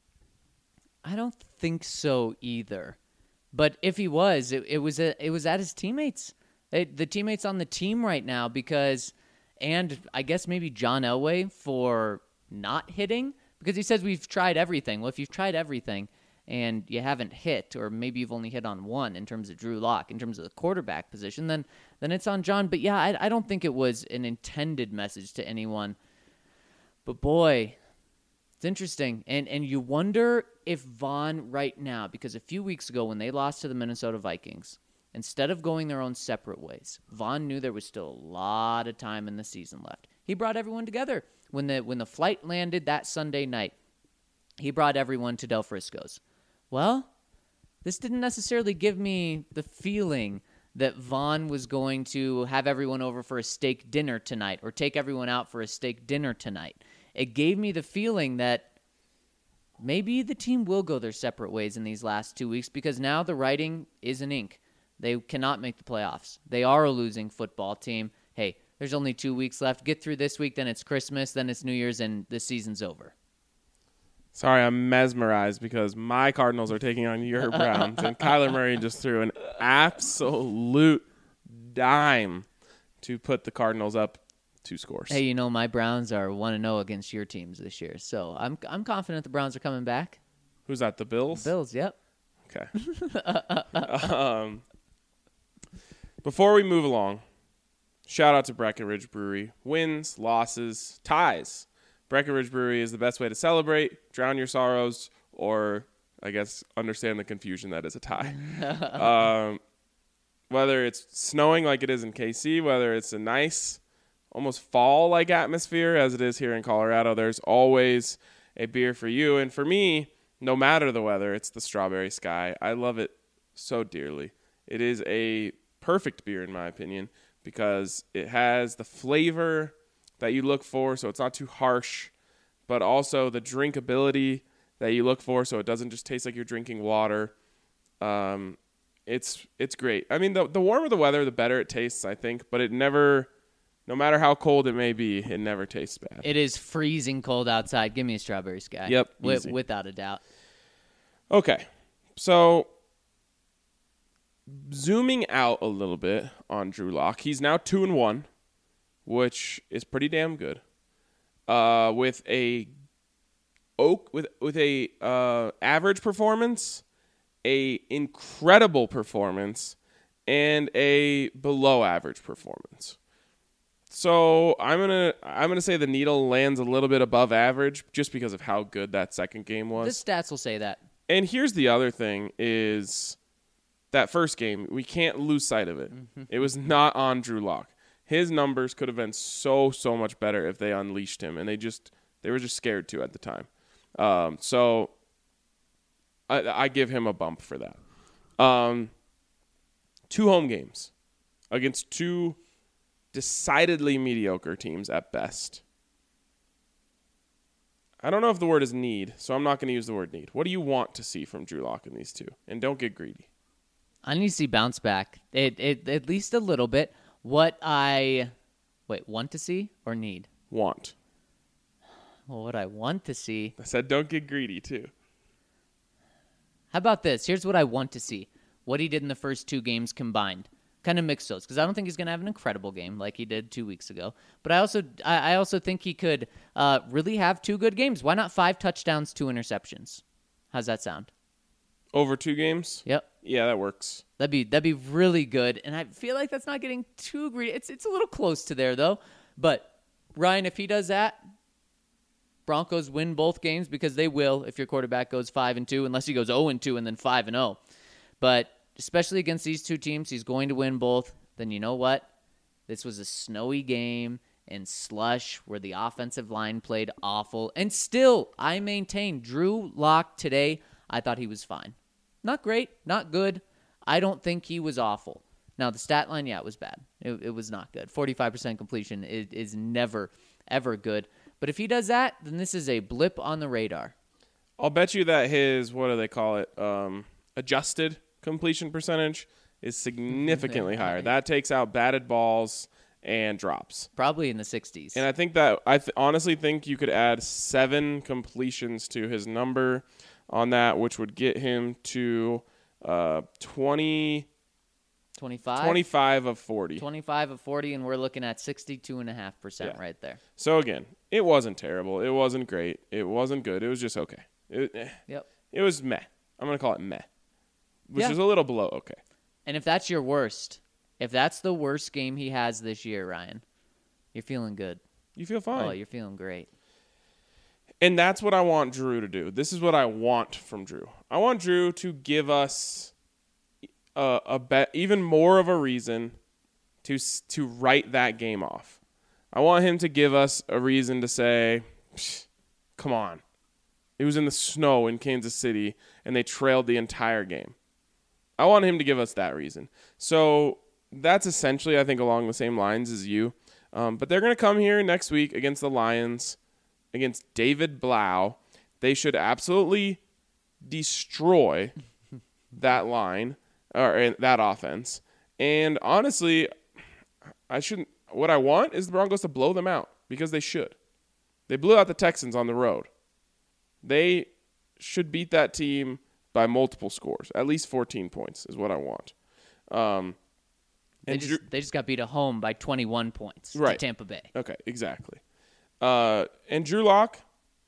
I don't think so either. But if he was, it, it was a, it was at his teammates. It, the teammates on the team right now, because, and I guess maybe John Elway for not hitting, because he says we've tried everything. Well, if you've tried everything and you haven't hit, or maybe you've only hit on one in terms of Drew Lock, in terms of the quarterback position, then then it's on John. But yeah, I, I don't think it was an intended message to anyone. But boy, it's interesting. And and you wonder if Vaughn right now, because a few weeks ago when they lost to the Minnesota Vikings, instead of going their own separate ways, Vaughn knew there was still a lot of time in the season left. He brought everyone together. When the when the flight landed that Sunday night, he brought everyone to Del Frisco's. Well, this didn't necessarily give me the feeling that Vaughn was going to have everyone over for a steak dinner tonight or take everyone out for a steak dinner tonight. It gave me the feeling that maybe the team will go their separate ways in these last two weeks, because now the writing is in ink. They cannot make the playoffs. They are a losing football team. Hey, there's only two weeks left. Get through this week, then it's Christmas, then it's New Year's, and the season's over. Sorry, I'm mesmerized because my Cardinals are taking on your Browns, and Kyler Murray just threw an absolute dime to put the Cardinals up two scores. Hey, you know, my Browns are one and oh against your teams this year, so I'm I'm confident the Browns are coming back. Who's that, the Bills? The Bills, yep. Okay. um, before we move along, shout out to Breckenridge Brewery. Wins, losses, ties. Breckenridge Brewery is the best way to celebrate, drown your sorrows, or, I guess, understand the confusion that is a tie. um, whether it's snowing like it is in K C, whether it's a nice, almost fall-like atmosphere as it is here in Colorado, there's always a beer for you. And for me, no matter the weather, it's the Strawberry Sky. I love it so dearly. It is a perfect beer, in my opinion, because it has the flavor that you look for, so it's not too harsh, but also the drinkability that you look for, so it doesn't just taste like you're drinking water. Um, it's it's great. I mean, the the warmer the weather, the better it tastes, I think, but it never, no matter how cold it may be, it never tastes bad. It is freezing cold outside. Give me a Strawberry Sky. Yep, With, without a doubt. Okay, so zooming out a little bit on Drew Lock, he's now two and one. Which is pretty damn good. Uh, with a oak with with a uh, average performance, a incredible performance, and a below average performance. So I'm gonna I'm gonna say the needle lands a little bit above average just because of how good that second game was. The stats will say that. And here's the other thing is that first game, we can't lose sight of it. Mm-hmm. It was not on Drew Lock. His numbers could have been so, so much better if they unleashed him, and they just they were just scared to at the time. Um, so I, I give him a bump for that. Um, two home games against two decidedly mediocre teams at best. I don't know if the word is need, so I'm not going to use the word need. What do you want to see from Drew Lock in these two? And don't get greedy. I need to see bounce back, it, it, at least a little bit. What I, wait, want to see or need? Want. Well, what I want to see. I said don't get greedy, too. How about this? Here's what I want to see. What he did in the first two games combined. Kind of mix those, because I don't think he's going to have an incredible game like he did two weeks ago. But I also I, I also think he could uh, really have two good games. Why not five touchdowns, two interceptions? How's that sound? Over two games? Yep. Yeah, that works. That'd be that'd be really good, and I feel like that's not getting too greedy. It's it's a little close to there though. But Ryan, if he does that, Broncos win both games because they will if your quarterback goes five and two, unless he goes zero and two and then five and zero. But especially against these two teams, he's going to win both. Then you know what? This was a snowy game and slush where the offensive line played awful. And still, I maintain Drew Lock today, I thought he was fine. Not great, not good. I don't think he was awful. Now, the stat line, yeah, it was bad. It, it was not good. forty-five percent completion is, is never, ever good. But if he does that, then this is a blip on the radar. I'll bet you that his, what do they call it, um, adjusted completion percentage is significantly higher. That takes out batted balls and drops. Probably in the sixties. And I think that I th- honestly think you could add seven completions to his number on that, which would get him to uh, twenty, twenty-five? twenty-five of forty. twenty-five of forty, and we're looking at sixty-two point five percent Yeah. right there. So, again, it wasn't terrible. It wasn't great. It wasn't good. It was just okay. It, eh. Yep. It was meh. I'm going to call it meh, which Yeah. is a little below okay. And if that's your worst, if that's the worst game he has this year, Ryan, you're feeling good. You feel fine. Oh, you're feeling great. And that's what I want Drew to do. This is what I want from Drew. I want Drew to give us a, a bet, even more of a reason to s- to write that game off. I want him to give us a reason to say, come on. It was in the snow in Kansas City, and they trailed the entire game. I want him to give us that reason. So that's essentially, I think, along the same lines as you. Um, but they're going to come here next week against the Lions, against David Blau. They should absolutely destroy that line or that offense. And honestly, I shouldn't. What I want is the Broncos to blow them out because they should. They blew out the Texans on the road. They should beat that team by multiple scores. At least fourteen points is what I want. Um, They and just, Drew, they just got beat at home by twenty-one points Right. to Tampa Bay. okay, exactly. Uh, and Drew Lock,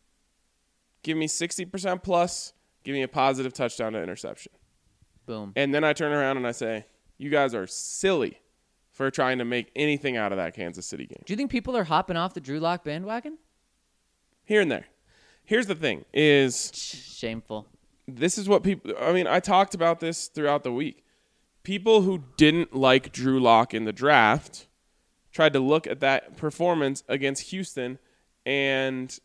give me sixty percent plus. Give me a positive touchdown to interception. Boom. And then I turn around and I say, you guys are silly for trying to make anything out of that Kansas City game. Do you think people are hopping off the Drew Lock bandwagon? Here and there. Here's the thing is Shameful. this is what people I mean, I talked about this throughout the week. People who didn't like Drew Lock in the draft tried to look at that performance against Houston and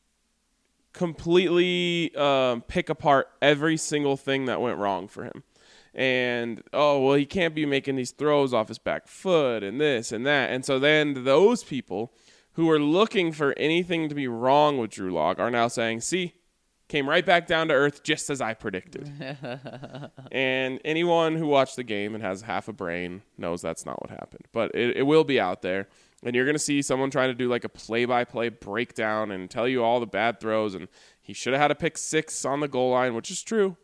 completely um, pick apart every single thing that went wrong for him. And, oh, well, he can't be making these throws off his back foot and this and that. And so then those people who are looking for anything to be wrong with Drew Lock are now saying, see, came right back down to earth just as I predicted. And anyone who watched the game and has half a brain knows that's not what happened. But it, it will be out there. And you're going to see someone trying to do like a play-by-play breakdown and tell you all the bad throws. And he should have had a pick six on the goal line, which is true.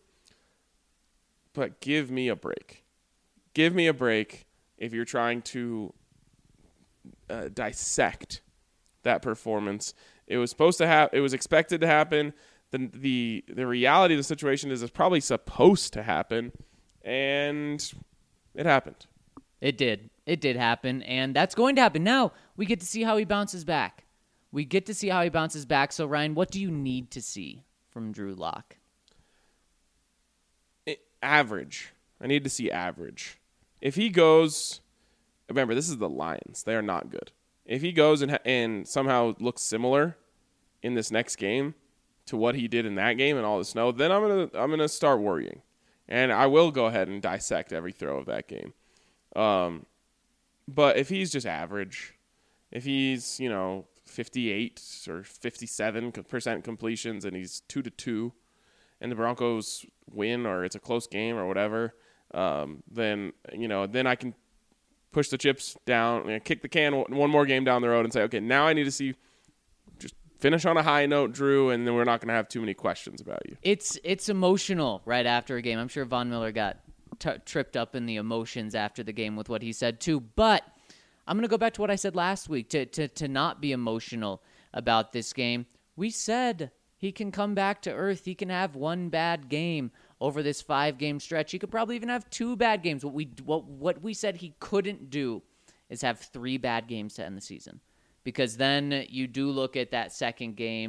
But give me a break. Give me a break if you're trying to uh, dissect that performance. It was supposed to have. It was expected to happen. The, the the reality of the situation is it's probably supposed to happen, and it happened. It did. It did happen, and that's going to happen. Now we get to see how he bounces back. We get to see how he bounces back. So, Ryan, what do you need to see from Drew Lock? Average. I need to see average. If he goes, remember, this is the Lions. They are not good. If he goes and and somehow looks similar in this next game to what he did in that game and all the snow, then I'm gonna I'm gonna start worrying, and I will go ahead and dissect every throw of that game. Um, but if he's just average, if he's you know fifty-eight or fifty-seven percent completions and he's two to two, and the Broncos win or it's a close game or whatever, um, then you know then I can push the chips down, you know, kick the can one more game down the road and say, okay, now I need to see just finish on a high note, Drew, and then we're not going to have too many questions about you. It's it's emotional right after a game. I'm sure Von Miller got t- tripped up in the emotions after the game with what he said too. But I'm going to go back to what I said last week to, to, to not be emotional about this game. We said he can come back to earth. He can have one bad game over this five-game stretch. He could probably even have two bad games. What we what what we said he couldn't do is have three bad games to end the season. Because then you do look at that second game,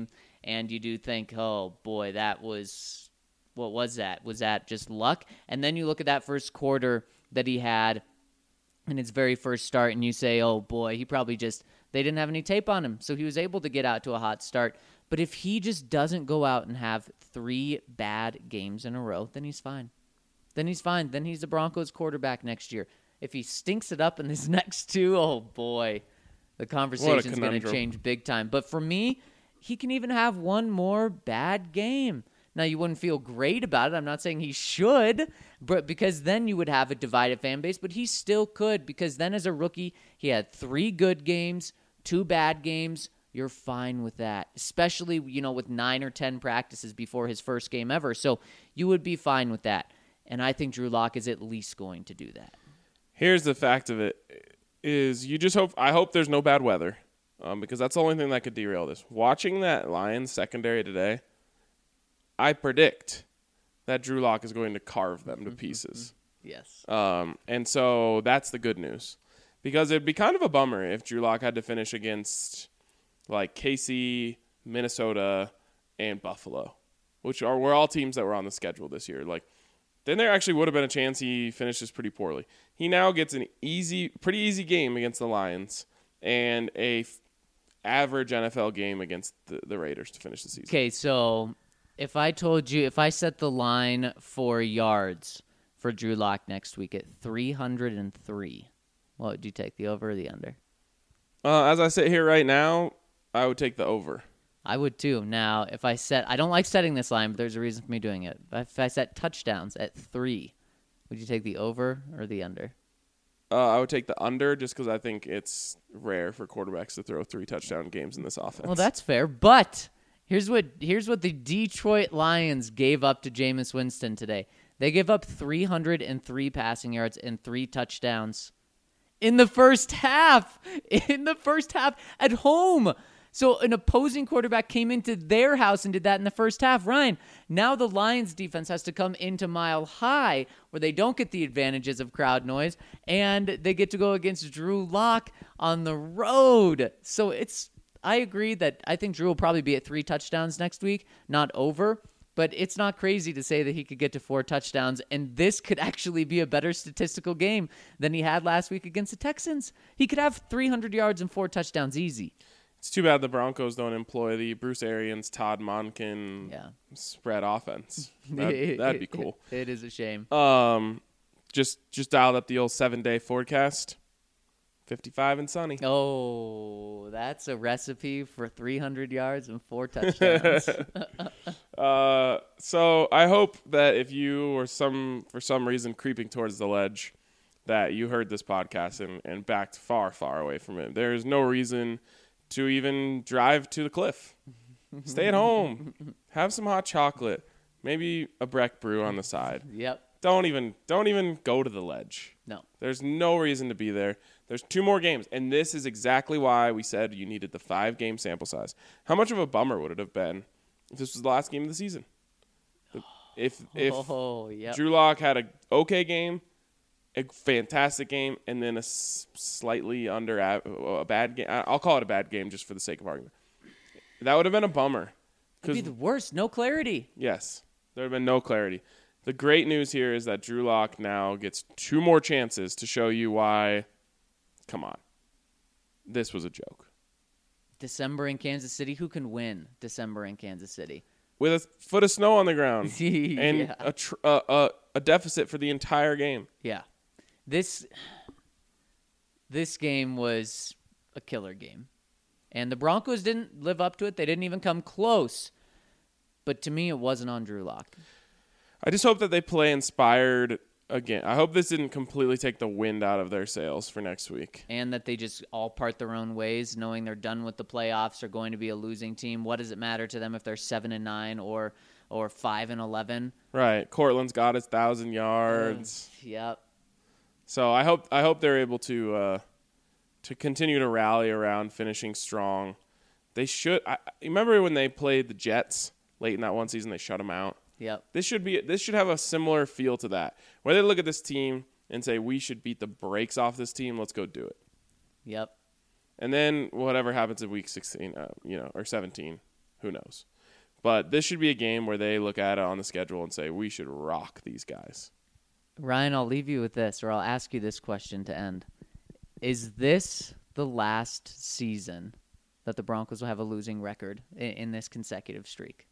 and you do think, oh, boy, that was – what was that? Was that just luck? And then you look at that first quarter that he had in his very first start, and you say, oh, boy, he probably just – they didn't have any tape on him, so he was able to get out to a hot start. But if he just doesn't go out and have three bad games in a row, then he's fine. Then he's fine. Then he's the Broncos quarterback next year. If he stinks it up in his next two, oh, boy, the conversation's going to change big time. But for me, he can even have one more bad game. Now, you wouldn't feel great about it. I'm not saying he should, but because then you would have a divided fan base. But he still could, because then as a rookie, he had three good games, two bad games. You're fine with that, especially, you know, with nine or ten practices before his first game ever. So you would be fine with that. And I think Drew Lock is at least going to do that. Here's the fact of it is you just hope, I hope there's no bad weather um, because that's the only thing that could derail this. Watching that Lions secondary today, I predict that Drew Lock is going to carve them to pieces. Yes. Um, and so that's the good news, because it'd be kind of a bummer if Drew Lock had to finish against like K C, Minnesota, and Buffalo, which are were all teams that were on the schedule this year. Like, then there actually would have been a chance he finishes pretty poorly. He now gets an easy, pretty easy game against the Lions and a f- average N F L game against the, the Raiders to finish the season. Okay, so if I told you, if I set the line for yards for Drew Lock next week at three hundred three, what would you take, the over or the under? Uh, as I sit here right now, I would take the over. I would too. Now, if I set, I don't like setting this line, but there's a reason for me doing it. If I set touchdowns at three, would you take the over or the under? Uh, I would take the under just because I think it's rare for quarterbacks to throw three touchdown games in this offense. Well, that's fair, but here's what here's what the Detroit Lions gave up to Jameis Winston today. They gave up three hundred three passing yards and three touchdowns in the first half. In the first half at home. So an opposing quarterback came into their house and did that in the first half. Ryan, now the Lions defense has to come into Mile High where they don't get the advantages of crowd noise, and they get to go against Drew Lock on the road. So it's, I agree that I think Drew will probably be at three touchdowns next week, not over, but it's not crazy to say that he could get to four touchdowns, and this could actually be a better statistical game than he had last week against the Texans. He could have three hundred yards and four touchdowns easy. It's too bad the Broncos don't employ the Bruce Arians, Todd Monken Yeah. spread offense. That'd, that'd be cool. It is a shame. Um, just just dialed up the old seven-day forecast. fifty-five and sunny. Oh, that's a recipe for three hundred yards and four touchdowns. uh, so I hope that if you were some for some reason creeping towards the ledge, that you heard this podcast and, and backed far, far away from it. There is no reason to even drive to the cliff. Stay at home. Have some hot chocolate. Maybe a Breck brew on the side. Yep. Don't even don't even go to the ledge. No. There's no reason to be there. There's two more games, and this is exactly why we said you needed the five-game sample size. How much of a bummer would it have been if this was the last game of the season? If if oh, yep. Drew Lock had a okay game, a fantastic game, and then a s- slightly under a, a bad game. I'll call it a bad game just for the sake of argument. That would have been a bummer. It'd be the worst. No clarity. Yes, there would have been no clarity. The great news here is that Drew Lock now gets two more chances to show you why, come on, this was a joke. December in Kansas City. Who can win December in Kansas City? With a foot of snow on the ground Yeah. and a, tr- uh, uh, a deficit for the entire game. Yeah. This this game was a killer game. And the Broncos didn't live up to it. They didn't even come close. But to me, it wasn't on Drew Lock. I just hope that they play inspired again. I hope this didn't completely take the wind out of their sails for next week. And that they just all part their own ways, knowing they're done with the playoffs, they're going to be a losing team. What does it matter to them if they're seven and nine or or five and eleven? Right. Cortland's got his thousand yards. Uh, yep. So I hope I hope they're able to uh, to continue to rally around finishing strong. They should. I, remember when they played the Jets late in that one season? They shut them out. Yep. This should be. This should have a similar feel to that, where they look at this team and say, "We should beat the brakes off this team. Let's go do it." Yep. And then whatever happens in week sixteen, uh, you know, or seventeen, who knows? But this should be a game where they look at it on the schedule and say, we should rock these guys. Ryan, I'll leave you with this, or I'll ask you this question to end. Is this the last season that the Broncos will have a losing record in, in this consecutive streak?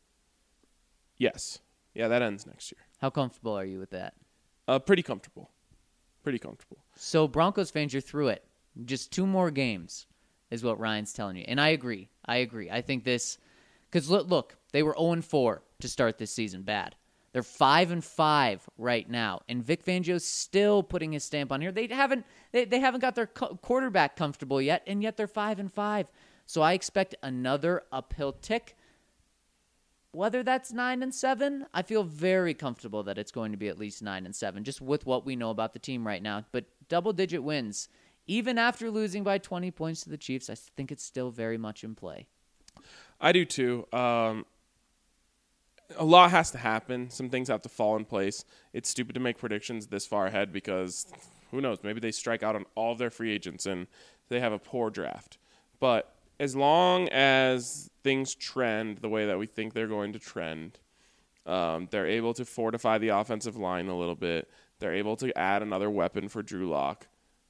Yes. Yeah, that ends next year. How comfortable are you with that? Uh, pretty comfortable. Pretty comfortable. So Broncos fans, you're through it. Just two more games is what Ryan's telling you. And I agree. I agree. I think this – because look, look, they were oh and four to start this season. Bad. They're five and five right now, and Vic Fangio's still putting his stamp on here. They haven't they, they haven't got their co- quarterback comfortable yet, and yet they're five and five. So I expect another uphill tick. Whether that's nine and seven, I feel very comfortable that it's going to be at least nine and seven, just with what we know about the team right now. But double digit wins, even after losing by twenty points to the Chiefs, I think it's still very much in play. I do too. Um, a lot has to happen. Some things have to fall in place. It's stupid to make predictions this far ahead because who knows? Maybe they strike out on all of their free agents and they have a poor draft. But as long as things trend the way that we think they're going to trend, um, they're able to fortify the offensive line a little bit. They're able to add another weapon for Drew Lock.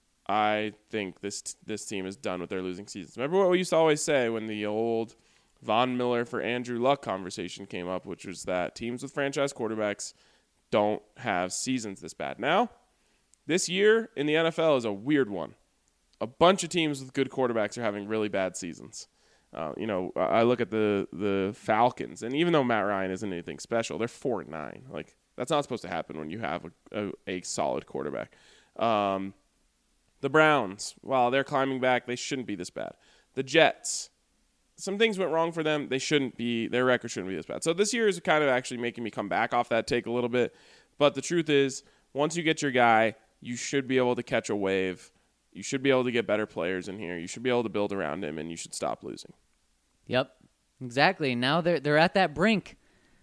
I think this this team is done with their losing seasons. Remember what we used to always say when the old Von Miller for Andrew Luck conversation came up, which was that teams with franchise quarterbacks don't have seasons this bad. Now, this year in the N F L is a weird one. A bunch of teams with good quarterbacks are having really bad seasons. Uh, you know, I look at the the Falcons, and even though Matt Ryan isn't anything special, they're four and nine. Like that's not supposed to happen when you have a, a, a solid quarterback. Um, the Browns, while they're climbing back, they shouldn't be this bad. The Jets. Some things went wrong for them. They shouldn't be, their record shouldn't be this bad. So this year is kind of actually making me come back off that take a little bit. But the truth is, once you get your guy, you should be able to catch a wave. You should be able to get better players in here. You should be able to build around him, and you should stop losing. Yep, exactly. Now they're they're at that brink.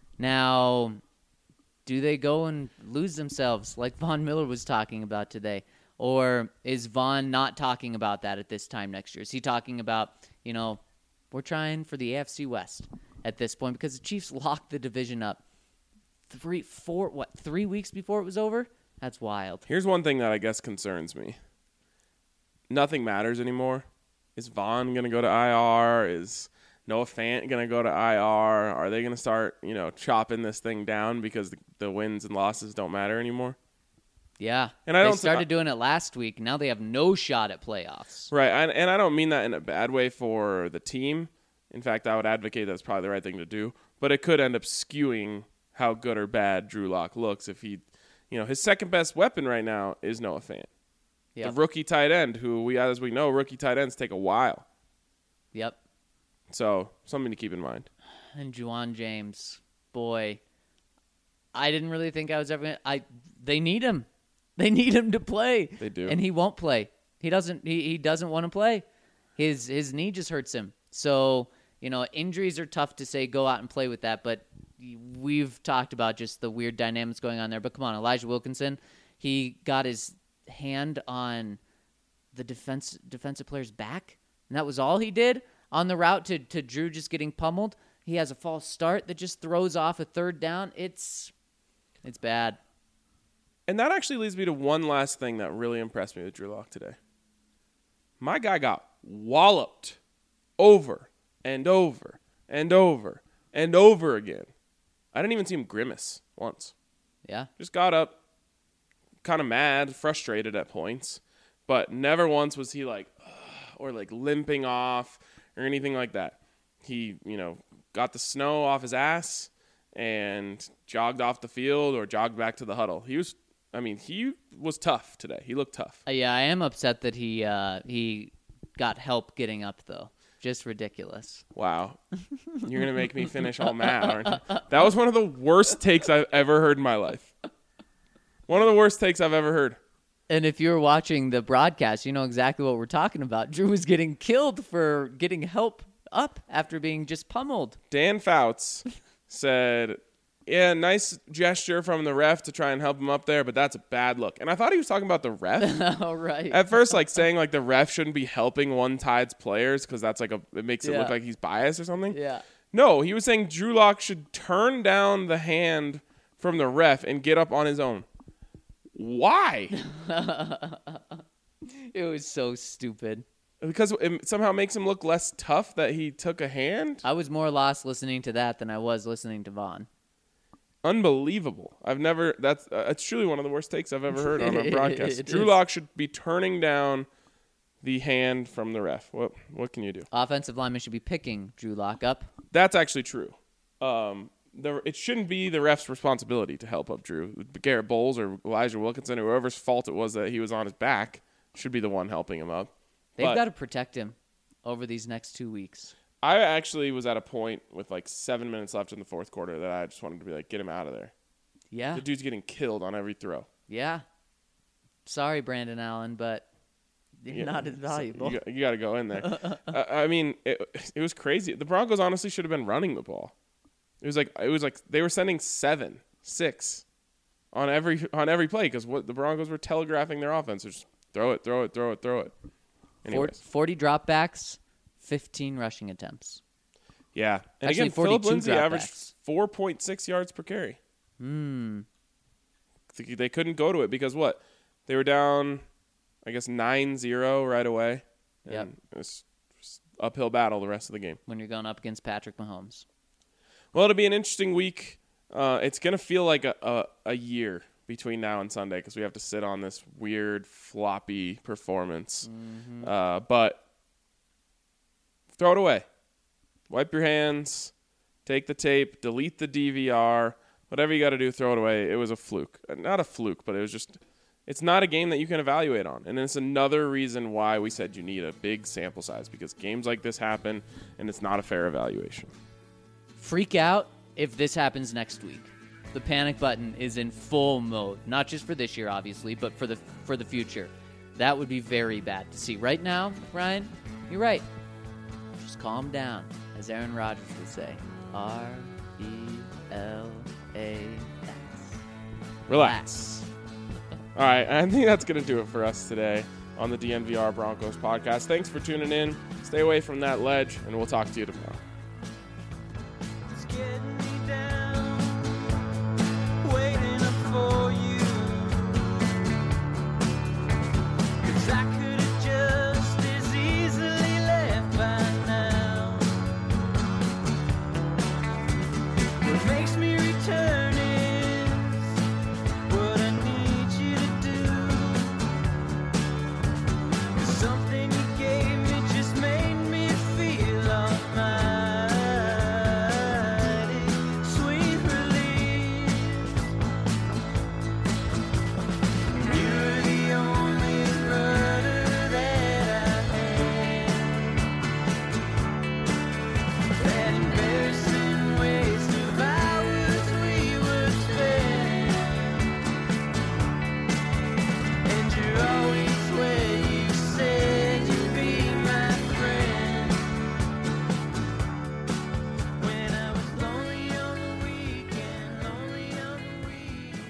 Now, do they go and lose themselves like Von Miller was talking about today? Or is Von not talking about that at this time next year? Is he talking about, you know, we're trying for the A F C West at this point because the Chiefs locked the division up three, four, what, three weeks before it was over? That's wild. Here's one thing that I guess concerns me. Nothing matters anymore. Is Vaughn going to go to I R? Is Noah Fant going to go to I R? Are they going to start, you know, chopping this thing down because the, the wins and losses don't matter anymore? Yeah, and I they don't started th- doing it last week. Now they have no shot at playoffs. Right, and, and I don't mean that in a bad way for the team. In fact, I would advocate that's probably the right thing to do. But it could end up skewing how good or bad Drew Lock looks if he, you know, his second best weapon right now is Noah Fant, yep. the rookie tight end, who we, as we know, rookie tight ends take a while. Yep. So something to keep in mind. And Juwan James, boy, I didn't really think I was ever gonna. I they need him. They need him to play. They do. And he won't play. He doesn't he, he doesn't want to play. His his knee just hurts him. So, you know, injuries are tough to say go out and play with that, but we've talked about just the weird dynamics going on there. But come on, Elijah Wilkinson, he got his hand on the defense defensive player's back, and that was all he did on the route to, to Drew just getting pummeled. He has a false start that just throws off a third down. It's it's bad. And that actually leads me to one last thing that really impressed me with Drew Lock today. My guy got walloped over and over and over and over again. I didn't even see him grimace once. Yeah. Just got up, kind of mad, frustrated at points, but never once was he like, ugh, or like limping off or anything like that. He, you know, got the snow off his ass and jogged off the field or jogged back to the huddle. He was I mean, he was tough today. He looked tough. Uh, yeah, I am upset that he uh, he got help getting up, though. Just ridiculous. Wow. You're going to make me finish all mad, aren't you? That was one of the worst takes I've ever heard in my life. One of the worst takes I've ever heard. And if you were watching the broadcast, you know exactly what we're talking about. Drew was getting killed for getting help up after being just pummeled. Dan Fouts said, yeah, nice gesture from the ref to try and help him up there, but that's a bad look. And I thought he was talking about the ref. Oh, right. At first, like saying like the ref shouldn't be helping one Tide's players because that's like a it makes it Yeah. look like he's biased or something. Yeah. No, he was saying Drew Lock should turn down the hand from the ref and get up on his own. Why? It was so stupid. Because it somehow makes him look less tough that he took a hand? I was more lost listening to that than I was listening to Vaughn. Unbelievable. I've never, that's uh, it's truly one of the worst takes I've ever heard on a broadcast. It Drew is. Lock should be turning down the hand from the ref. What what can you do? Offensive lineman should be picking Drew Lock up. That's actually true. Um, the, it shouldn't be the ref's responsibility to help up Drew. Garrett Bowles or Elijah Wilkinson, or whoever's fault it was that he was on his back, should be the one helping him up. They've But got to protect him over these next two weeks. I actually was at a point with like seven minutes left in the fourth quarter that I just wanted to be like, get him out of there. Yeah. The dude's getting killed on every throw. Yeah. Sorry, Brandon Allen, but you're Yeah, not as so valuable. You, got, you got to go in there. uh, I mean, it, it was crazy. The Broncos honestly should have been running the ball. It was like it was like they were sending seven, six on every on every play because what the Broncos were telegraphing their offense. Just throw it, throw it, throw it, throw it. Anyways. forty dropbacks, fifteen rushing attempts. Yeah. And Actually, again, Philip forty-two Lindsay averaged dropbacks. four point six yards per carry. Hmm. They couldn't go to it because what? They were down, I guess, nine zero right away. And Yep. it was just uphill battle the rest of the game. When you're going up against Patrick Mahomes. Well, it'll be an interesting week. Uh, it's going to feel like a, a, a year between now and Sunday because we have to sit on this weird, floppy performance. Mm-hmm. Uh, but throw it away. Wipe your hands. Take the tape. Delete the D V R. Whatever you got to do, throw it away. It was a fluke. Not a fluke, but it was just – it's not a game that you can evaluate on. And it's another reason why we said you need a big sample size because games like this happen, and it's not a fair evaluation. Freak out if this happens next week. The panic button is in full mode, not just for this year, obviously, but for the for the future. That would be very bad to see. Right now, Ryan, you're right. Just calm down, as Aaron Rodgers would say. R E L A X. Relax. All right, I think that's going to do it for us today on the D N V R Broncos podcast. Thanks for tuning in. Stay away from that ledge, and we'll talk to you tomorrow. It's getting me down, waiting up for you. 'Cause I could have just as easily left by now. What makes me return is what I need you to do. 'Cause something you gave me just made me feel almighty. Sweet relief. You're the only rudder that I had. That embarrassing waste of hours we were spent. And you're always where you said you'd be my friend. When I was lonely on the weekend, lonely on the weekend.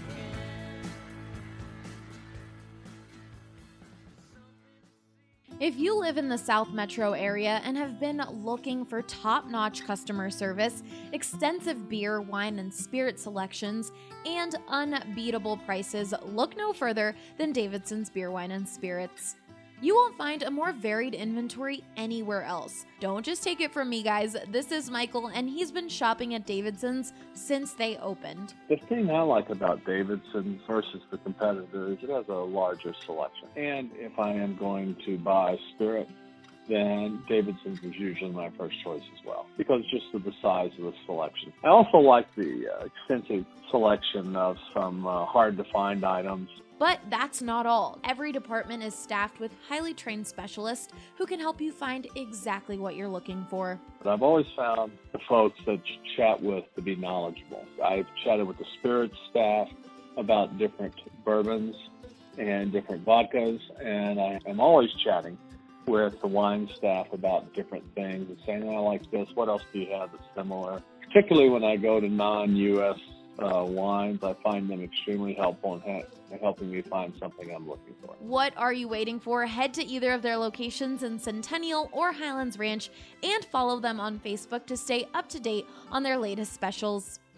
If you live in the South Metro area and have been looking for top-notch customer service, extensive beer, wine, and spirit selections, and unbeatable prices, look no further than Davidson's Beer, Wine, and Spirits. You won't find a more varied inventory anywhere else. Don't just take it from me, guys. This is Michael, and he's been shopping at Davidson's since they opened. The thing I like about Davidson versus the competitor is it has a larger selection. And if I am going to buy Spirit, then Davidson's is usually my first choice as well, because just of the size of the selection. I also like the uh, extensive selection of some uh, hard-to-find items. But that's not all. Every department is staffed with highly trained specialists who can help you find exactly what you're looking for. But I've always found the folks that you chat with to be knowledgeable. I've chatted with the Spirit staff about different bourbons and different vodkas, and I am always chatting with the wine staff about different things and saying, I like this, what else do you have that's similar? Particularly when I go to non-U S uh, wines. I find them extremely helpful in, ha- in helping me find something I'm looking for. What are you waiting for? Head to either of their locations in Centennial or Highlands Ranch and follow them on Facebook to stay up to date on their latest specials.